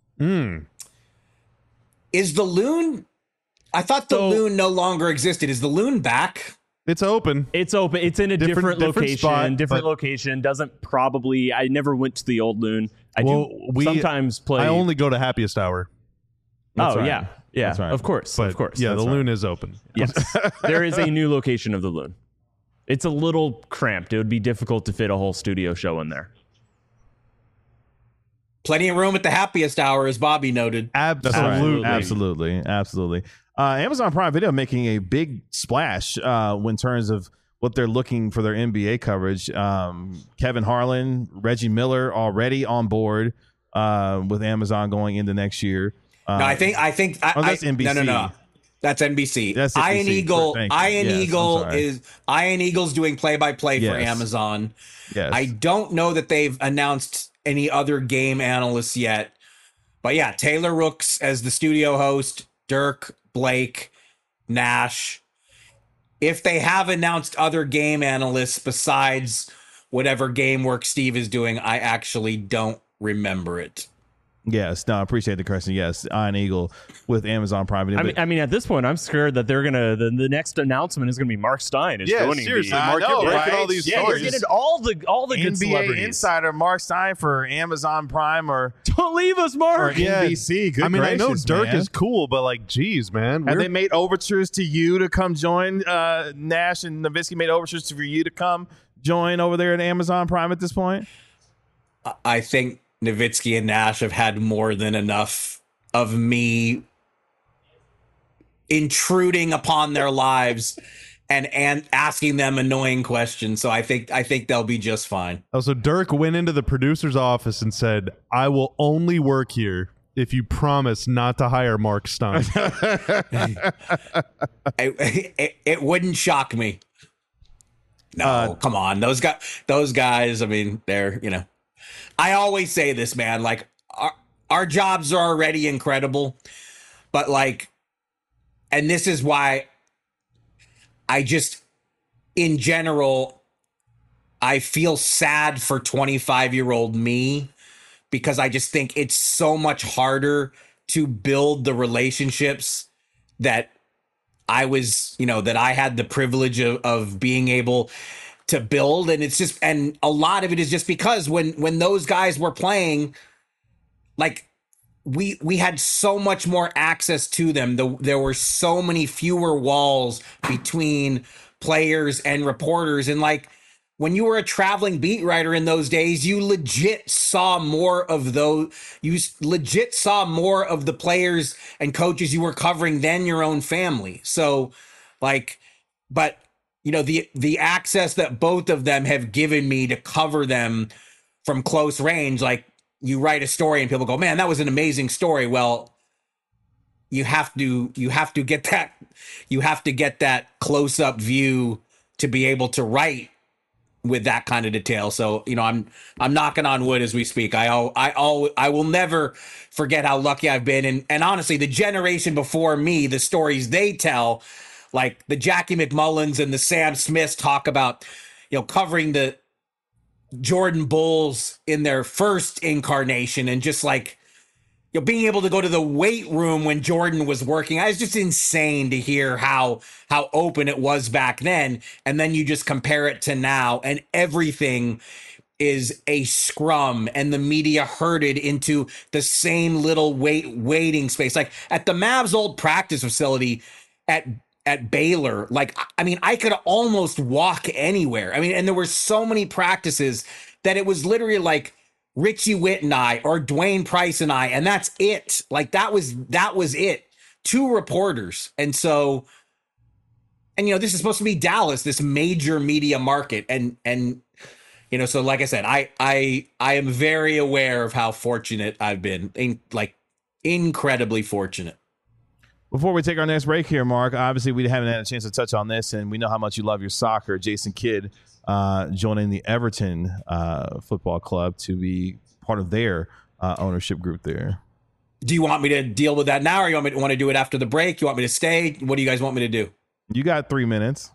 Is the Loon? I thought the Loon no longer existed. Is the Loon back? It's open. It's open. It's in a different location. Spot, different location. Doesn't probably. I never went to the old Loon. I sometimes play. I only go to Happiest Hour. That's right. Yeah. That's right. Of course. But, of course. Yeah, That's the right. Loon is open. Yes. There is a new location of the Loon. It's a little cramped. It would be difficult to fit a whole studio show in there. Plenty of room at the Happiest Hour, as Bobby noted. Absolutely. Absolutely. Amazon Prime Video making a big splash in terms of what they're looking for their NBA coverage. Kevin Harlan, Reggie Miller already on board with Amazon going into next year. No, I think that's NBC. No. That's NBC. That's Ian NBC. Ian Eagle's doing play-by-play for Amazon. Yes. I don't know that they've announced any other game analysts yet. But yeah, Taylor Rooks as the studio host, Dirk, Blake, Nash. If they have announced other game analysts besides whatever game work Steve is doing, I actually don't remember it. Yes, no, I appreciate the question. Yes, Iron Eagle with Amazon Prime Video. I mean, at this point, I'm scared that they're gonna. The next announcement is gonna be Mark Stein is joining. Seriously, the, Mark, you're breaking all these stories. You're getting all the good NBA celebrities. insider Mark Stein for Amazon Prime or Don't leave us, Mark. NBC. Good I mean, gracious, I know Dirk man. is cool, but like, geez, man. Have they made overtures to you to come join? Nash and Nowitzki made overtures for you to come join over there at Amazon Prime at this point? I think Nowitzki and Nash have had more than enough of me intruding upon their lives and asking them annoying questions. So I think they'll be just fine. Oh, so Dirk went into the producer's office and said, "I will only work here if you promise not to hire Mark Stein." It wouldn't shock me. No, come on. Those guys, I mean, they're, I always say this, man, like our jobs are already incredible, but like, and this is why I just, in general, I feel sad for 25-year-old me, because I just think it's so much harder to build the relationships that I was, that I had the privilege of being able to build. And it's just, and a lot of it is just because when those guys were playing, like we had so much more access to them. There were so many fewer walls between players and reporters. And like, when you were a traveling beat writer in those days, you legit saw more of the players and coaches you were covering than your own family. So like, but the access that both of them have given me to cover them from close range, like you write a story and people go, "Man, that was an amazing story." Well, you have to get that close up view to be able to write with that kind of detail. So, I'm knocking on wood as we speak. I will never forget how lucky I've been. And honestly, the generation before me, the stories they tell, like the Jackie McMullins and the Sam Smiths talk about, covering the Jordan Bulls in their first incarnation, and just like, being able to go to the weight room when Jordan was working. I was just insane to hear how open it was back then. And then you just compare it to now, and everything is a scrum, and the media herded into the same little waiting space. Like at the Mavs old practice facility at Baylor, like, I mean, I could almost walk anywhere. I mean, and there were so many practices that it was literally like Richie Witt and I, or Dwayne Price and I, and that's it. Like that was it. 2 reporters. And so, this is supposed to be Dallas, this major media market. And so like I said, I am very aware of how fortunate I've been, incredibly fortunate. Before we take our next break here, Mark, obviously we haven't had a chance to touch on this, and we know how much you love your soccer. Jason Kidd joining the Everton football club to be part of their ownership group there. Do you want me to deal with that now, or you want to do it after the break? You want me to stay? What do you guys want me to do? You got 3 minutes.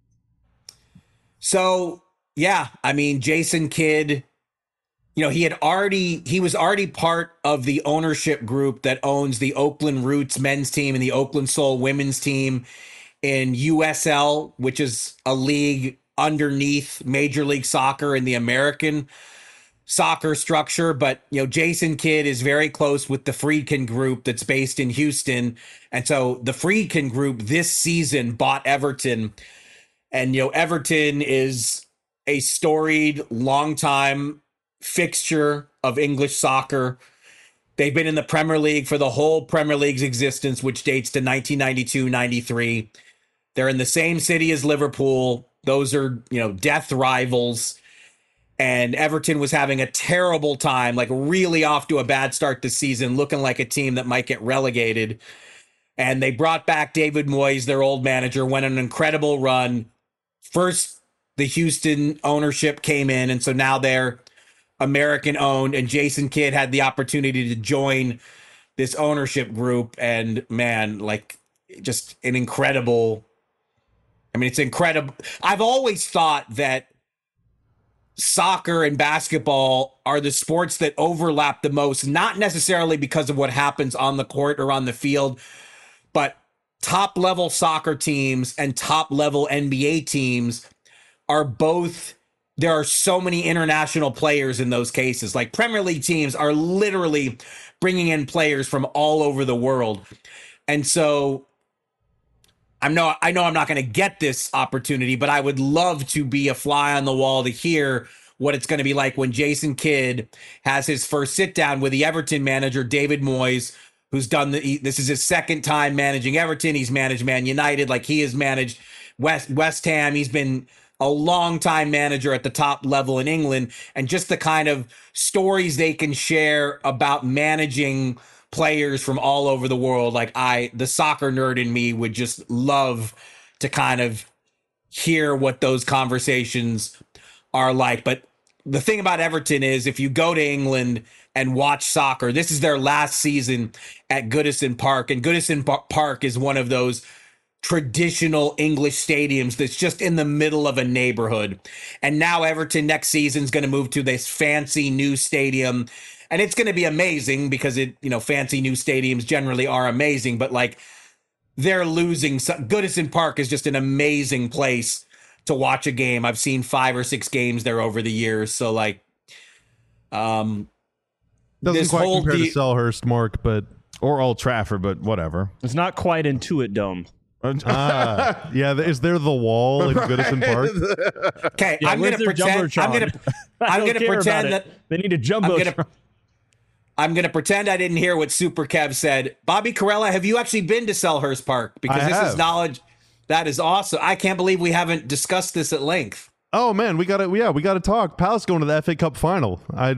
So, yeah, I mean, Jason Kidd, he was already part of the ownership group that owns the Oakland Roots men's team and the Oakland Soul women's team in USL, which is a league underneath Major League Soccer and the American soccer structure. But, Jason Kidd is very close with the Friedkin Group that's based in Houston. And so the Friedkin Group this season bought Everton. And, Everton is a storied, longtime fixture of English soccer. They've been in the Premier League for the whole Premier League's existence, which dates to 1992-93. They're in the same city as Liverpool. Those are, death rivals. And Everton was having a terrible time, like really off to a bad start this season, looking like a team that might get relegated. And they brought back David Moyes, their old manager, went on an incredible run. First, the Houston ownership came in, and so now they're American owned, and Jason Kidd had the opportunity to join this ownership group. And man, like, just an incredible, it's incredible. I've always thought that soccer and basketball are the sports that overlap the most, not necessarily because of what happens on the court or on the field, but top level soccer teams and top level NBA teams are both. There are so many international players in those cases. Like Premier League teams are literally bringing in players from all over the world. And so I know I'm not going to get this opportunity, but I would love to be a fly on the wall to hear what it's going to be like when Jason Kidd has his first sit down with the Everton manager, David Moyes, who's done this is his second time managing Everton. He's managed Man United, like he has managed West Ham. He's been a long-time manager at the top level in England, and just the kind of stories they can share about managing players from all over the world. Like the soccer nerd in me would just love to kind of hear what those conversations are like. But the thing about Everton is, if you go to England and watch soccer, this is their last season at Goodison Park, and Goodison Park is one of those traditional English stadiums that's just in the middle of a neighborhood. And now Everton next season is going to move to this fancy new stadium, and it's going to be amazing because fancy new stadiums generally are amazing, but like they're losing. Goodison Park is just an amazing place to watch a game. I've seen 5 or 6 games there over the years. So like, doesn't quite compare to Selhurst, Mark, but or Old Trafford, but whatever. It's not quite Intuit Dome. Yeah, is there the wall in Goodison Park? Okay, yeah, I'm going to pretend. I'm going to pretend that they need a jumbo. I'm going to pretend I didn't hear what Super Kev said. Bobby Carella, have you actually been to Selhurst Park? Because this is knowledge that is awesome. I can't believe we haven't discussed this at length. Oh man, we got to talk. Palace going to the FA Cup final.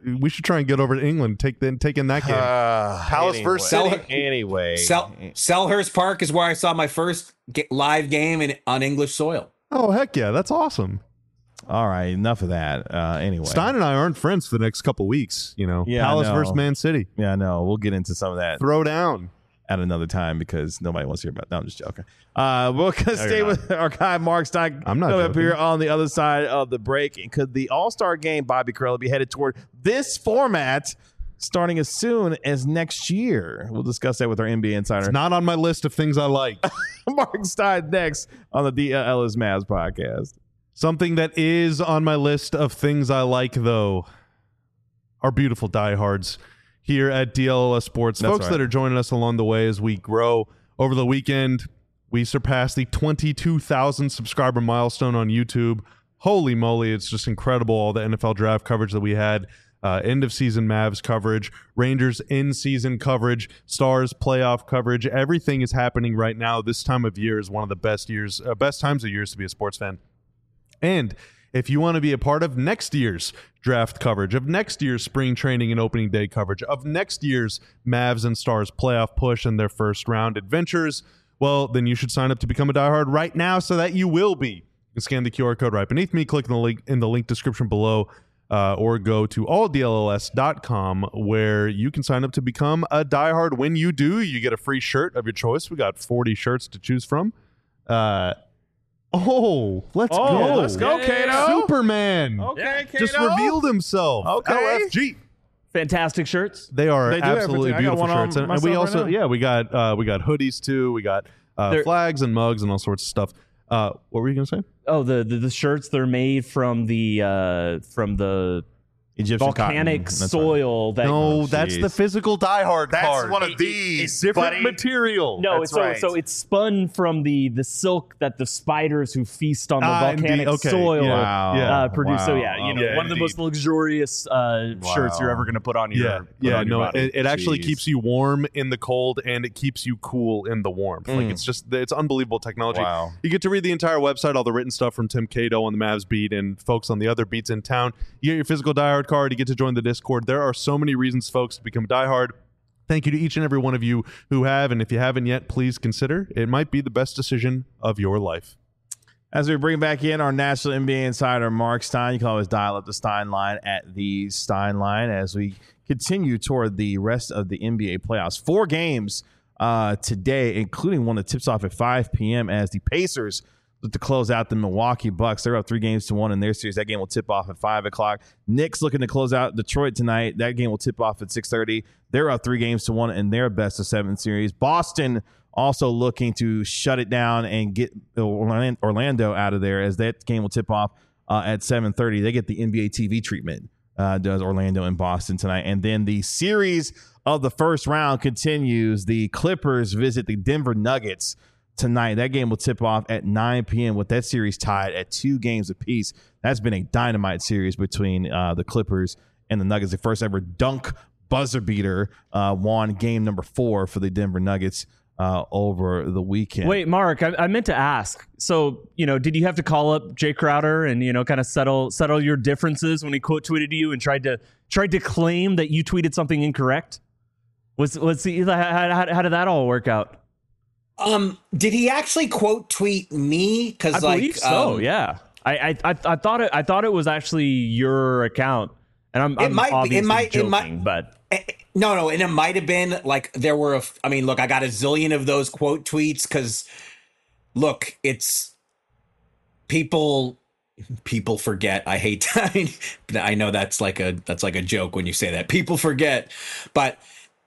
We should try and get over to England, take in that game. Palace versus City. Anyway. Selhurst Park is where I saw my first live game on English soil. Oh, heck yeah. That's awesome. All right, enough of that. Anyway. Stein and I aren't friends for the next couple weeks, Yeah, Palace I know. versus Man City. Yeah, no, we'll get into some of that Throw down. at another time because nobody wants to hear about it. No, I'm just joking. We're going to stay with our guy, Mark Stein. I'm not coming up joking. here on the other side of the break. And could the All-Star game, Bobby Carell, be headed toward this format starting as soon as next year? We'll discuss that with our NBA insider. It's not on my list of things I like. Mark Stein next on the DLS Mavs podcast. Something that is on my list of things I like, though, are beautiful diehards here at DLS Sports. That's Folks right. that are joining us along the way as we grow. Over the weekend, we surpassed the 22,000 subscriber milestone on YouTube. Holy moly, it's just incredible, all the NFL draft coverage that we had. End-of-season Mavs coverage, Rangers in-season coverage, Stars playoff coverage. Everything is happening right now. This time of year is one of the best times of years to be a sports fan. And if you want to be a part of next year's draft coverage, of next year's spring training and opening day coverage, of next year's Mavs and Stars playoff push and their first round adventures, well, then you should sign up to become a diehard right now so that you will be. You can scan the QR code right beneath me, click the link in the link description below, or go to alldlls.com where you can sign up to become a diehard. When you do, you get a free shirt of your choice. We got 40 shirts to choose from. Let's go. Let's go, Kato. Superman. Okay, Kato. Just revealed himself. Okay. LFG. Fantastic shirts. They are They do absolutely everything. I got beautiful one on shirts. And myself we right also, now. we got hoodies too. We got flags and mugs and all sorts of stuff. What were you going to say? Oh, the shirts, they're made from the Egyptian volcanic cotton. That's soil. That No, that's jeez. the physical diehard card. of these. different material. No, That's so right. so it's spun from the silk that the spiders who feast on the Indeed. volcanic Okay. soil Yeah. produce. So Wow. one of the indeed. most luxurious shirts you're ever going to put on your body. It actually Jeez. keeps you warm in the cold and it keeps you cool in the warmth. Like it's unbelievable technology. Wow. You get to read the entire website, all the written stuff from Tim Cato on the Mavs beat and folks on the other beats in town. You get your physical diehard card. You get to join the Discord. There are so many reasons, folks, to become a diehard. Thank you to each and every one of you who have, and if you haven't yet, please consider. It might be the best decision of your life. As we bring back in our national NBA insider, Mark Stein, you can always dial up the Stein line at the Stein line as we continue toward the rest of the NBA playoffs. 4 games today, including one that tips off at 5 p.m. as the Pacers look to close out the Milwaukee Bucks. They're up 3-1 in their series. That game will tip off at 5 o'clock. Knicks looking to close out Detroit tonight. That game will tip off at 6:30. They're up 3-1 in their best-of-7 series. Boston also looking to shut it down and get Orlando out of there as that game will tip off at 7:30. They get the NBA TV treatment, does Orlando and Boston tonight. And then the series of the first round continues. The Clippers visit the Denver Nuggets tonight. That game will tip off at 9 p.m. with that series tied at 2 games apiece. That's been a dynamite series between the Clippers and the Nuggets. The first ever dunk buzzer beater won game number 4 for the Denver Nuggets over the weekend. Wait, Mark, I meant to ask. So, did you have to call up Jay Crowder and kind of settle your differences when he quote tweeted you and tried to claim that you tweeted something incorrect? How did that all work out? Did he actually quote tweet me? Because I believe so. Yeah, I thought it was actually your account, and I'm obviously joking, but. No, and it might have been like there were. I got a zillion of those quote tweets because, look, it's people forget. I hate that. I know that's like a joke when you say that. People forget, but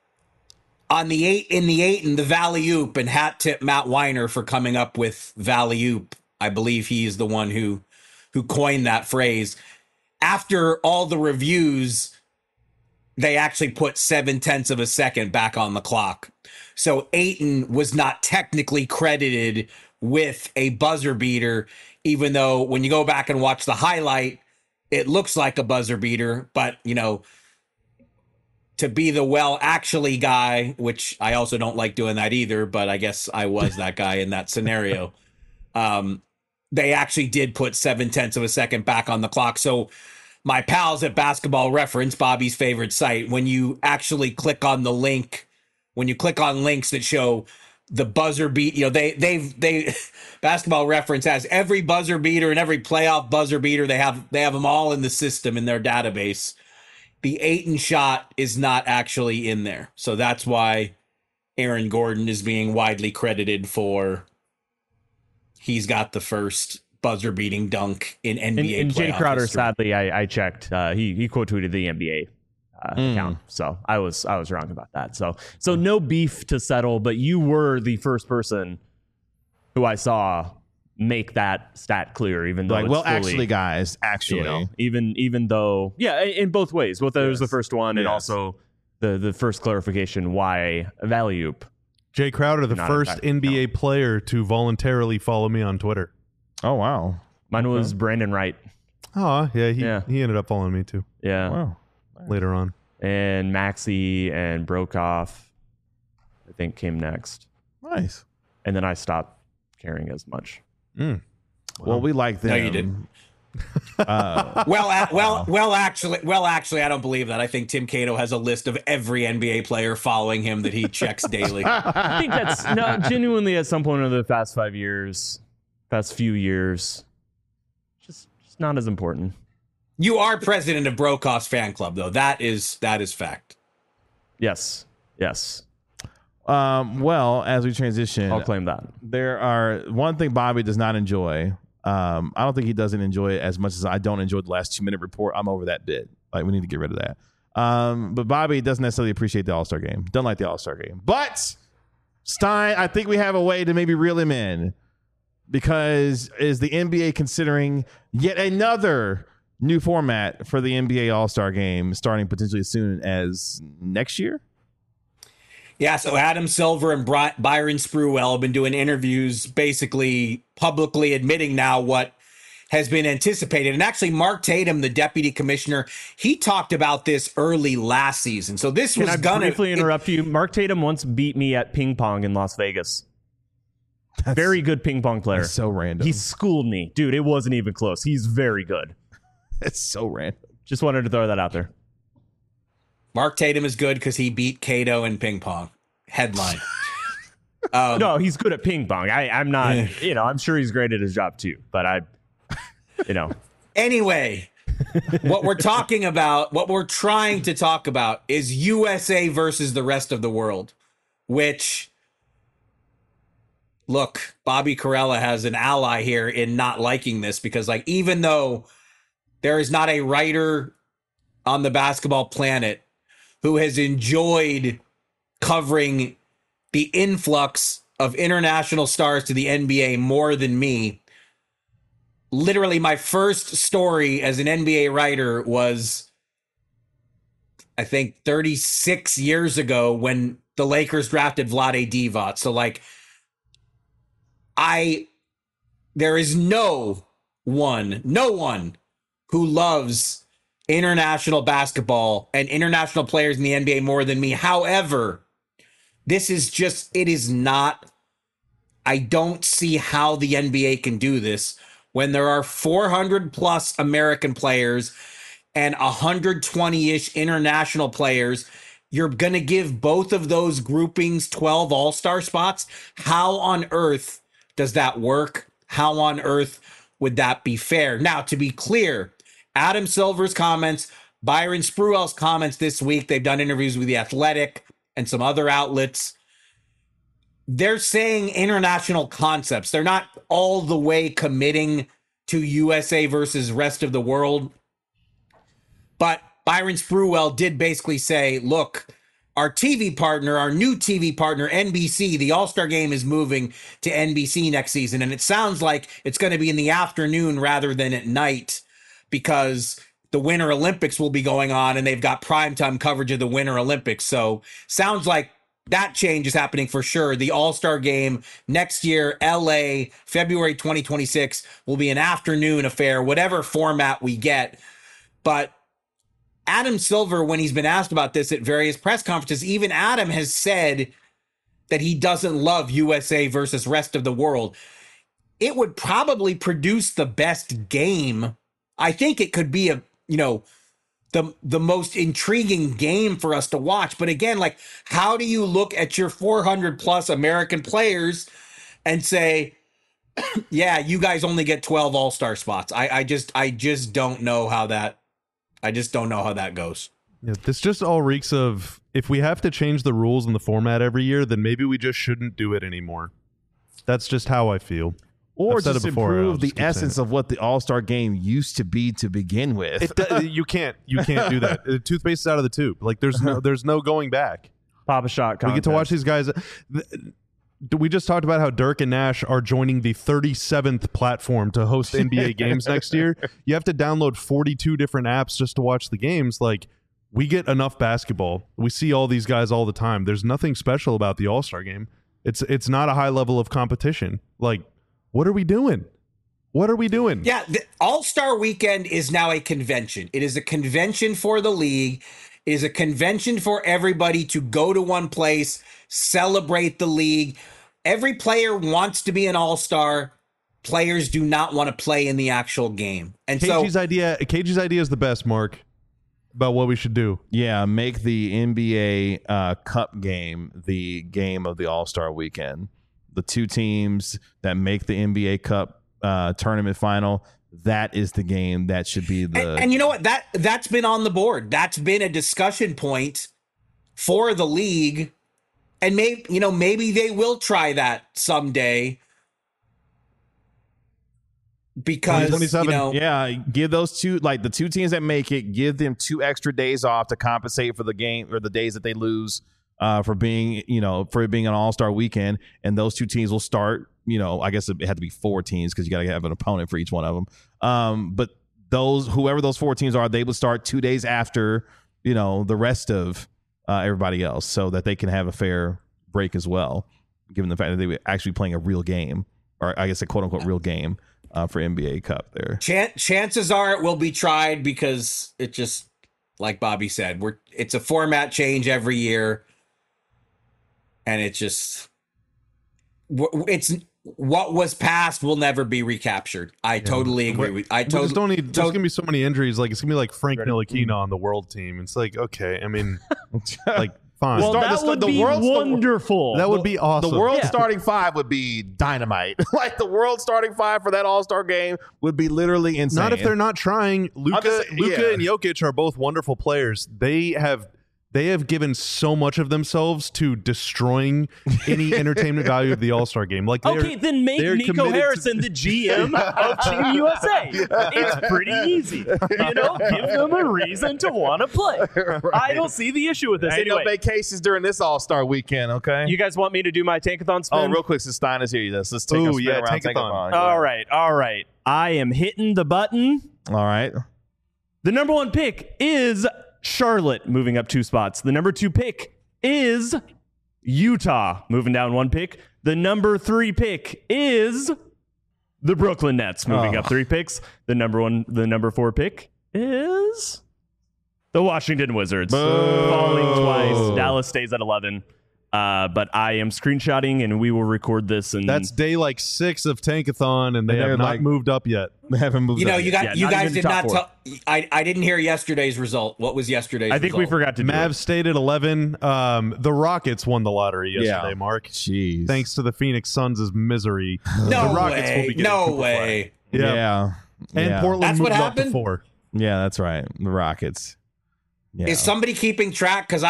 in the 8 and the Valley Oop, and hat tip Matt Weiner for coming up with Valley Oop. I believe he is the one who coined that phrase. After all the reviews, they actually put 0.7 of a second back on the clock. So Ayton was not technically credited with a buzzer beater, even though when you go back and watch the highlight, it looks like a buzzer beater. But, to be the actually guy, which I also don't like doing that either, but I guess I was that guy in that scenario. They actually did put 0.7 of a second back on the clock. So my pals at Basketball Reference, Bobby's favorite site, when you actually click on the link, when you click on links that show the buzzer beat, they Basketball Reference has every buzzer beater and every playoff buzzer beater. They have them all in the system in their database. The Ayton shot is not actually in there. So that's why Aaron Gordon is being widely credited for he's got the first buzzer beating dunk in NBA and Jay playoff Crowder, history. sadly, I checked. He quote tweeted the NBA account, so I was wrong about that. So no beef to settle, but you were the first person who I saw make that stat clear, even though it's fully, actually, guys, even though, in both ways, both was the first one, and Yes. also the first clarification why Valley-oop. Jay Crowder, the Not first impacted. NBA player to voluntarily follow me on Twitter. Oh wow, Mine was Brandon Wright. Oh, yeah, he Yeah. ended up following me too Yeah. wow. later on. And Maxey and Brokoff, I think, came next. Nice. And then I stopped caring as much. Well, we like them. No, you didn't. Well, actually, I don't believe that. I think Tim Cato has a list of every NBA player following him that he checks daily. I think that's genuinely at some point over the past few years, just not as important. You are president of Brokoff's fan club, though. That is fact. Yes. Well, as we transition, I'll claim that. there are one thing Bobby does not enjoy. I don't think he doesn't enjoy it as much as I don't enjoy the last 2-minute report. I'm over that bit. Like, we need to get rid of that. But Bobby doesn't necessarily appreciate the All-Star game. Doesn't like the All-Star game. But Stein, I think we have a way to maybe reel him in, because is the NBA considering yet another new format for the NBA All-Star game starting potentially as soon as next year? Yeah, so Adam Silver and Byron Spruwell have been doing interviews, basically publicly admitting now what has been anticipated. And actually, Mark Tatum, the deputy commissioner, he talked about this early last season. So this Can was I gonna briefly interrupt you? Mark Tatum once beat me at ping pong in Las Vegas. Very good ping pong player. That's so random. He schooled me. Dude, it wasn't even close. He's very good. It's so random. Just wanted to throw that out there. Mark Tatum is good because he beat Cato in ping pong. Headline. No, he's good at ping pong. I'm not, I'm sure he's great at his job too, but Anyway, what we're talking about, what we're trying to talk about is USA versus the rest of the world, which, look, Bobby Carella has an ally here in not liking this, because like, even though there is not a writer on the basketball planet who has enjoyed covering the influx of international stars to the NBA more than me. Literally, my first story as an NBA writer was, I think, 36 years ago when the Lakers drafted Vlade Divac. So, like, there is no one who loves international basketball and international players in the NBA more than me. However, this is just, it is not, I don't see how the NBA can do this when there are 400 plus American players and 120-ish international players. You're going to give both of those groupings 12 all-star spots. How on earth does that work? How on earth would that be fair? Now, to be clear, Adam Silver's comments, Byron Spruwell's comments this week, they've done interviews with The Athletic and some other outlets. They're saying international concepts. They're not all the way committing to USA versus rest of the world. But Byron Spruwell did basically say, look, our TV partner, our new TV partner, NBC, the All-Star Game is moving to NBC next season. And it sounds like it's going to be in the afternoon rather than at night, because the Winter Olympics will be going on and they've got primetime coverage of the Winter Olympics. So sounds like that change is happening for sure. The All-Star Game next year, LA, February 2026, will be an afternoon affair, whatever format we get. But Adam Silver, when he's been asked about this at various press conferences, even Adam has said that he doesn't love USA versus rest of the world. It would probably produce the best game. I think it could be the most intriguing game for us to watch. But again, like, how do you look at your 400 plus American players and say, yeah, you guys only get 12 all-star spots? I just don't know how that goes. Yeah, this just all reeks of, if we have to change the rules and the format every year, then maybe we just shouldn't do it anymore. That's just how I feel. Or I've said just it before, I'll improve the just keep saying essence it. of what the All-Star game used to be to begin with. You can't do that. The toothpaste is out of the tube. Like, there's no going back. Pop a shot. We get to watch these guys. We just talked about how Dirk and Nash are joining the 37th platform to host NBA games next year. You have to download 42 different apps just to watch the games. Like, we get enough basketball. We see all these guys all the time. There's nothing special about the All-Star game. It's not a high level of competition. Like, what are we doing? What are we doing? Yeah, the All-Star Weekend is now a convention. It is a convention for the league. It is a convention for everybody to go to one place, celebrate the league. Every player wants to be an All-Star. Players do not want to play in the actual game. And KG's idea is the best, Mark, about what we should do. Yeah, make the NBA Cup game the game of the All-Star Weekend. The two teams that make the NBA Cup tournament final, that is the game that should be the... And you know what? That's been on the board. That's been a discussion point for the league. And maybe they will try that someday. Because, 2027. Yeah, give those two, like the two teams that make it, give them 2 extra days off to compensate for the game or the days that they lose for being an All-Star weekend. And those two teams will start, I guess it had to be 4 teams because you got to have an opponent for each one of them. But whoever those 4 teams are, they would start 2 days after, the rest of everybody else so that they can have a fair break as well, given the fact that they were actually playing a real game, or I guess a quote-unquote real game. For NBA Cup there. Chances are it will be tried because it just, like Bobby said, it's a format change every year. And it's what was passed will never be recaptured. I totally agree with. There's gonna be so many injuries. Like, it's gonna be like Frank Ntilikina on the world team. It's like, okay, I mean, like, fine. Well, that would be wonderful. That would be awesome. The world starting 5 would be dynamite. Like, the world starting 5 for that All-Star game would be literally insane. Not if they're not trying. Luka and Jokic are both wonderful players. They have given so much of themselves to destroying any entertainment value of the All-Star game. Like, then make Nico Harrison the GM of Team USA. It's pretty easy. Give them a reason to want to play. Right. I don't see the issue with this. Ain't anyway, no vacations during this All-Star weekend, okay? You guys want me to do my Tankathon spin? Oh, real quick, since Stein is here, let's take a spin around Tankathon. All right. I am hitting the button. All right. The number 1 pick is Charlotte, moving up 2 spots. The number 2 pick is Utah, moving down 1 pick. The number 3 pick is the Brooklyn Nets, moving up 3 picks. The number 4 pick is the Washington Wizards, falling twice. Dallas stays at 11. But I am screenshotting, and we will record this. And that's day 6 of Tankathon, and they have not moved up yet. They haven't moved up. You guys did not tell. I didn't hear yesterday's result. What was yesterday's result? I think we forgot to do Mavs stayed at 11. The Rockets won the lottery yesterday, Mark. Jeez. Thanks to the Phoenix Suns' misery. No the Rockets way. will be getting No Cooper way. Flag. Yeah. And Portland That's moved what up to happened? 4. Yeah, that's right. The Rockets. Yeah. Is somebody keeping track? Because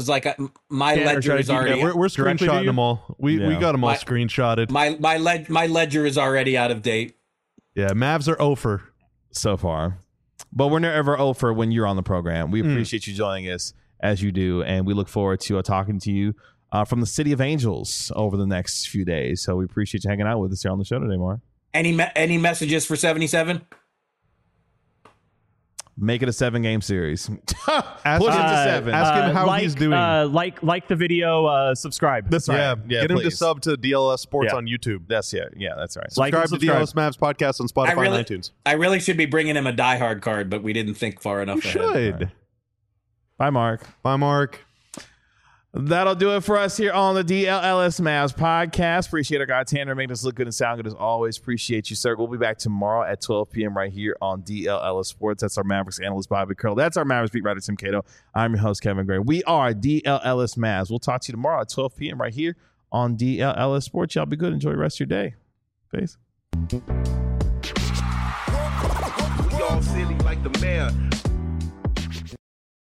my ledger is already. Yeah, we're screenshotting them all. We got them all screenshotted. My ledger is already out of date. Yeah, Mavs are over so far, but we're never over when you're on the program. We appreciate you joining us as you do, and we look forward to talking to you from the City of Angels over the next few days. So we appreciate you hanging out with us here on the show today, Mark. Any messages for 77? Make it a 7-game series. Push it to 7. Ask him how he's doing. Like the video, subscribe. That's right. Get him to sub to DLS Sports on YouTube. That's that's right. Subscribe to DLS Mavs podcast on Spotify and iTunes. I really should be bringing him a diehard card, but we didn't think far enough ahead. You should. Bye, Mark. Bye, Mark. That'll do it for us here on the DLLS Mavs podcast. Appreciate our guy Tanner making us look good and sound good as always. Appreciate you, sir. We'll be back tomorrow at 12 p.m. right here on DLLS Sports. That's our Mavericks analyst, Bobby Curl. That's our Mavericks beat writer, Tim Cato. I'm your host, Kevin Gray. We are DLLS Mavs. We'll talk to you tomorrow at 12 p.m. right here on DLLS Sports. Y'all be good. Enjoy the rest of your day. Peace. We all silly like the mayor.